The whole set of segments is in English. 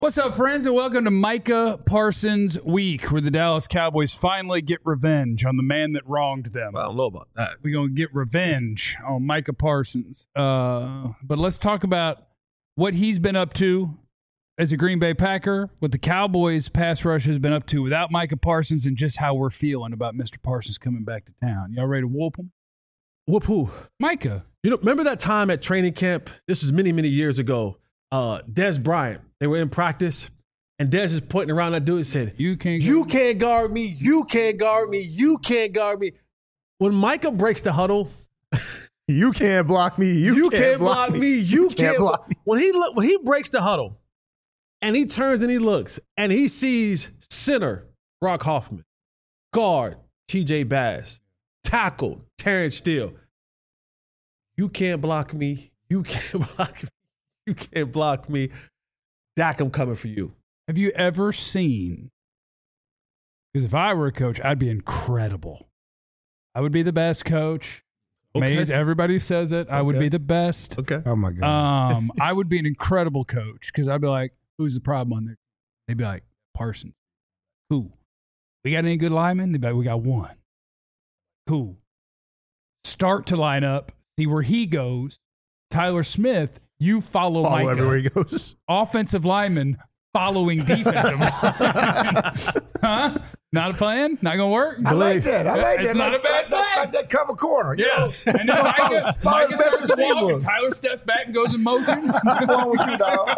What's up, friends, and welcome to Micah Parsons Week, where the Dallas Cowboys finally get revenge on the man that wronged them. Well, I don't know about that. We're going to get revenge on Micah Parsons. But let's talk about what he's been up to as a Green Bay Packer, what the Cowboys pass rush has been up to without Micah Parsons, and just how we're feeling about Mr. Parsons coming back to town. Y'all ready to whoop him? Whoop who? Micah. You know, remember that time at training camp? This was many, many years ago. Dez Bryant, they were in practice, and Dez is pointing around that dude and said, You can't guard me. You can't guard me. You can't guard me. When Micah breaks the huddle, you can't block me. You can't block me. You can't block me. When he breaks the huddle, and he turns and he looks, and he sees center Brock Hoffman, guard TJ Bass, tackle Terrence Steele. You can't block me. You can't block me. You can't block me. Dak, I'm coming for you. Have you ever seen, because if I were a coach, I'd be incredible. I would be the best coach. Okay. Maze, everybody says it. I would be the best. Okay. Oh, my God. I would be an incredible coach because I'd be like, who's the problem on there? They'd be like, Parsons. Who? We got any good linemen? They'd be like, we got one. Who? Start to line up, see where he goes. Tyler Smith, you follow Micah. Everywhere he goes. Offensive lineman following defensive lineman. Huh? Not a plan? Not going to work? I like that. It's not a bad plan. That cover corner. Yeah. And then Micah starts walking. Tyler steps back and goes in motion. What's wrong with you, dog?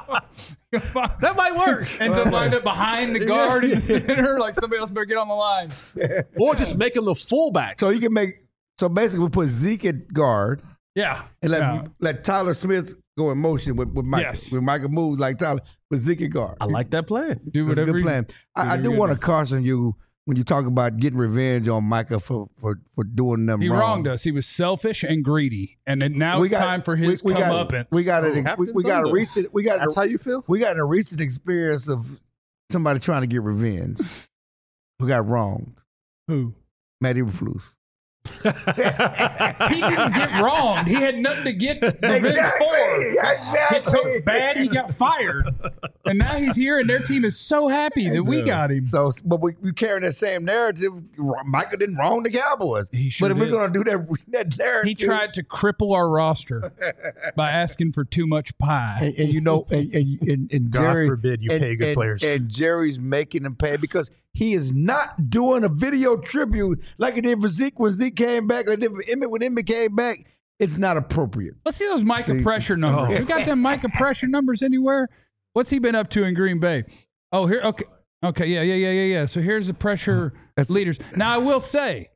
That might work. Ends up lined up behind the guard in the center. Like somebody else better get on the line. Or just make him the fullback. So you can make. So basically, we put Zeke at guard. Yeah. And let Tyler Smith go in motion with Micah. Yes. When Micah moves like Tyler, with Zeke at guard. I like that plan. Do That's a whatever good plan. I do want to caution you when you talk about getting revenge on Micah for doing them He wrong. wronged us. He was selfish and greedy. And now it's time for his comeuppance. We got a recent. That's how you feel? We got a recent experience of somebody trying to get revenge who got wronged. Who? Matt Eberflus. He didn't get wronged. He had nothing to get revenge for. Exactly. He coached bad. He got fired. And now he's here, and their team is so happy that we got him. So, but we carrying that same narrative. Micah didn't wrong the Cowboys. He sure but if did. we're going to do that narrative. He tried to cripple our roster by asking for too much pie. And you know, and God Jerry, forbid you pay good players. And Jerry's making them pay because he is not doing a video tribute like he did for Zeke when Zeke came back, like he did for Emmett when Emmett came back. It's not appropriate. Let's see those Micah pressure numbers. We got them Micah pressure numbers anywhere? What's he been up to in Green Bay? Oh, here. Okay. Yeah. So here's the pressure leaders. Now, I will say,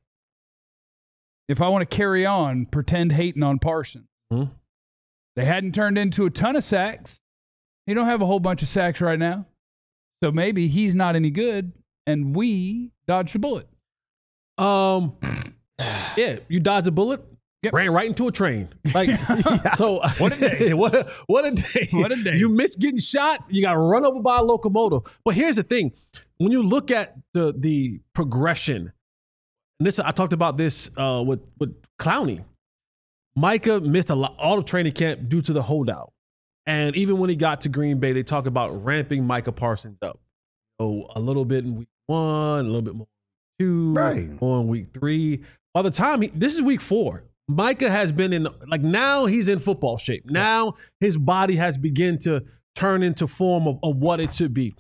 if I want to carry on, pretend hating on Parsons. They hadn't turned into a ton of sacks. He don't have a whole bunch of sacks right now. So maybe he's not any good, and we dodged a bullet. Yeah, you dodged a bullet. Yep. Ran right into a train. Like, so What a day. what a day. What a day. You missed getting shot. You got run over by a locomotive. But here's the thing: when you look at the progression, and this I talked about this with Clowney. Micah missed all of training camp due to the holdout, and even when he got to Green Bay, they talk about ramping Micah Parsons up. So a little bit in week 1, a little bit more in week 2, Right. more in week 3. By the time this is week 4. Micah has been now he's in football shape. Now his body has begun to turn into form of what it should be.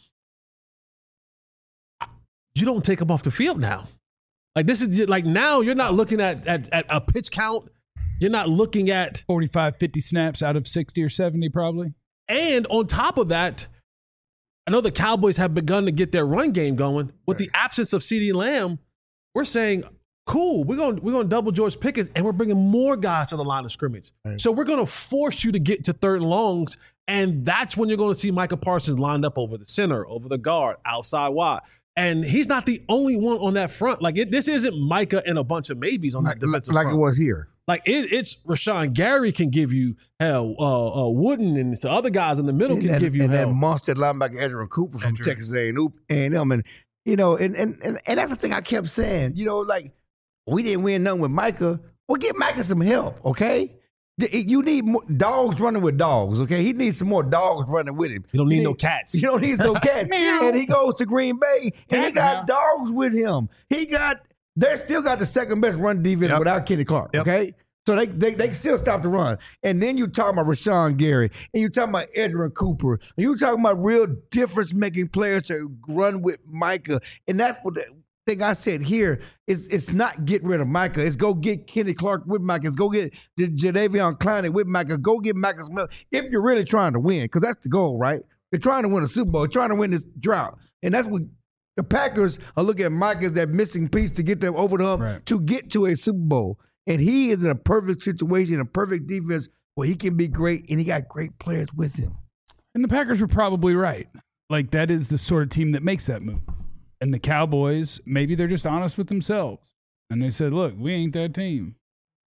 You don't take him off the field now. Like this is like now you're not looking at a pitch count. You're not looking at 45, 50 snaps out of 60 or 70 probably. And on top of that, I know the Cowboys have begun to get their run game going. With the absence of CeeDee Lamb, we're saying, cool, we're going to double George Pickens, and we're bringing more guys to the line of scrimmage. Right. So we're going to force you to get to third and longs, and that's when you're going to see Micah Parsons lined up over the center, over the guard, outside wide. And he's not the only one on that front. Like this isn't Micah and a bunch of maybes on that defensive front. Like it was here. Like it's Rashawn Gary can give you hell. Wooden and the other guys in the middle can give you and hell. And that monster linebacker Ezra Cooper from Texas A&M, and you know, and that's the thing I kept saying. You know, like we didn't win nothing with Micah. Well, get Micah some help, okay? You need more dogs running with dogs, okay? He needs some more dogs running with him. You don't need no cats. You don't need no cats. And he goes to Green Bay, and he got dogs with him. They still got the second best run defense without Kenny Clark, okay? So they still stop the run. And then you talking about Rashawn Gary, and you talking about Edgerrin Cooper, and you talking about real difference-making players to run with Micah. And that's what the thing I said here is it's not get rid of Micah. It's go get Kenny Clark with Micah. It's go get Jadeveon Clowney with Micah. Go get Micah Smith if you're really trying to win, because that's the goal, right? You're trying to win a Super Bowl. You're trying to win this drought. And that's what the Packers are looking at Micah as that missing piece to get them over the hump to get to a Super Bowl. And he is in a perfect situation, a perfect defense where he can be great, and he got great players with him. And the Packers were probably right. Like, that is the sort of team that makes that move. And the Cowboys, maybe they're just honest with themselves. And they said, look, we ain't that team.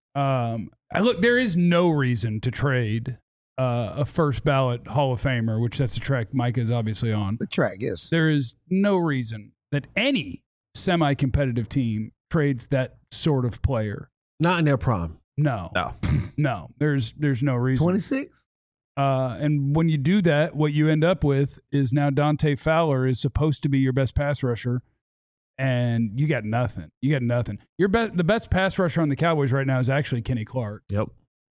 Look, there is no reason to trade a first ballot Hall of Famer, which that's the track Micah is obviously on. The track, yes. There is no reason that any semi-competitive team trades that sort of player. Not in their prime. No. There's no reason. 26? And when you do that, what you end up with is now Dante Fowler is supposed to be your best pass rusher, and you got nothing. The best pass rusher on the Cowboys right now is actually Kenny Clark. Yep.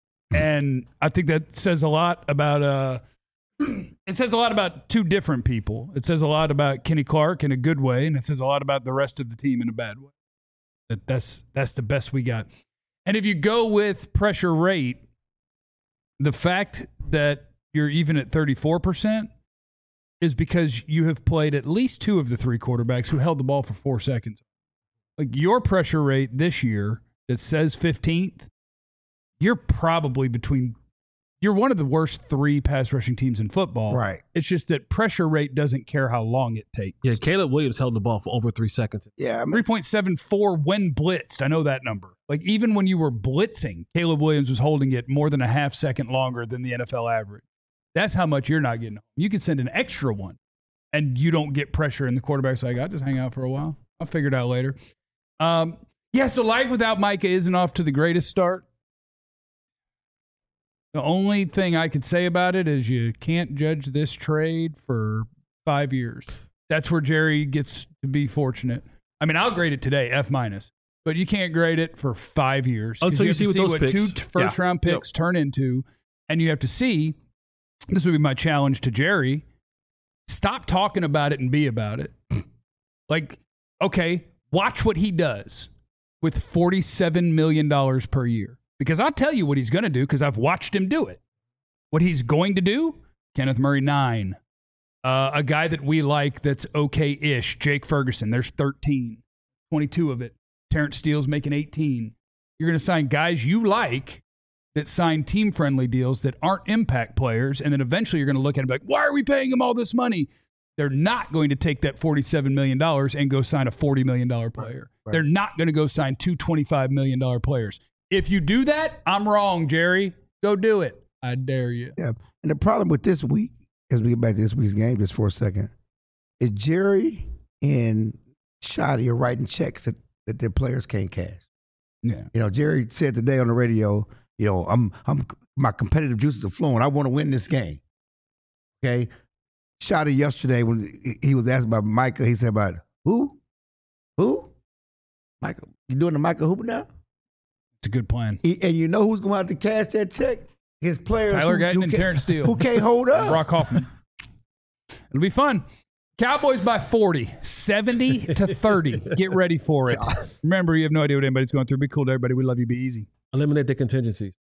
And I think that says a lot about it says a lot about two different people. It says a lot about Kenny Clark in a good way, and it says a lot about the rest of the team in a bad way. That's the best we got. And if you go with pressure rate, the fact that you're even at 34% is because you have played at least two of the three quarterbacks who held the ball for 4 seconds. Like, your pressure rate this year that says 15th, you're probably you're one of the worst three pass rushing teams in football. Right. It's just that pressure rate doesn't care how long it takes. Yeah, Caleb Williams held the ball for over 3 seconds. Yeah. 3.74 when blitzed. I know that number. Like, even when you were blitzing, Caleb Williams was holding it more than a half second longer than the NFL average. That's how much you're not getting. You could send an extra one, and you don't get pressure, and the quarterback's like, I'll just hang out for a while. I'll figure it out later. So life without Micah isn't off to the greatest start. The only thing I could say about it is you can't judge this trade for 5 years. That's where Jerry gets to be fortunate. I mean, I'll grade it today, F-, but you can't grade it for 5 years. Until you see what those picks. 2 first-round picks turn into, and you have to see, this would be my challenge to Jerry, stop talking about it and be about it. Like, okay, watch what he does with $47 million per year. Because I'll tell you what he's going to do because I've watched him do it. What he's going to do, Kenneth Murray, 9. A guy that we like that's okay-ish, Jake Ferguson, there's 13. 22 of it. Terrence Steele's making 18. You're going to sign guys you like that sign team-friendly deals that aren't impact players, and then eventually you're going to look at it and be like, why are we paying him all this money? They're not going to take that $47 million and go sign a $40 million player. Right. They're not going to go sign 2 $25 million players. If you do that, I'm wrong, Jerry. Go do it. I dare you. Yeah. And the problem with this week, as we get back to this week's game just for a second, is Jerry and Shotty are writing checks that their players can't cash. Yeah. You know, Jerry said today on the radio, you know, I'm my competitive juices are flowing. I want to win this game. Okay. Shotty yesterday when he was asked about Micah, he said about who? Micah. You doing the Micah Hooper now? It's a good plan. And you know who's going to have to cash that check? His players. Tyler Guyton and Terrence Steele. Who can't hold up. Brock Hoffman. It'll be fun. Cowboys by 40, 70-30. Get ready for it. Remember, you have no idea what anybody's going through. Be cool to everybody. We love you. Be easy. Eliminate the contingencies.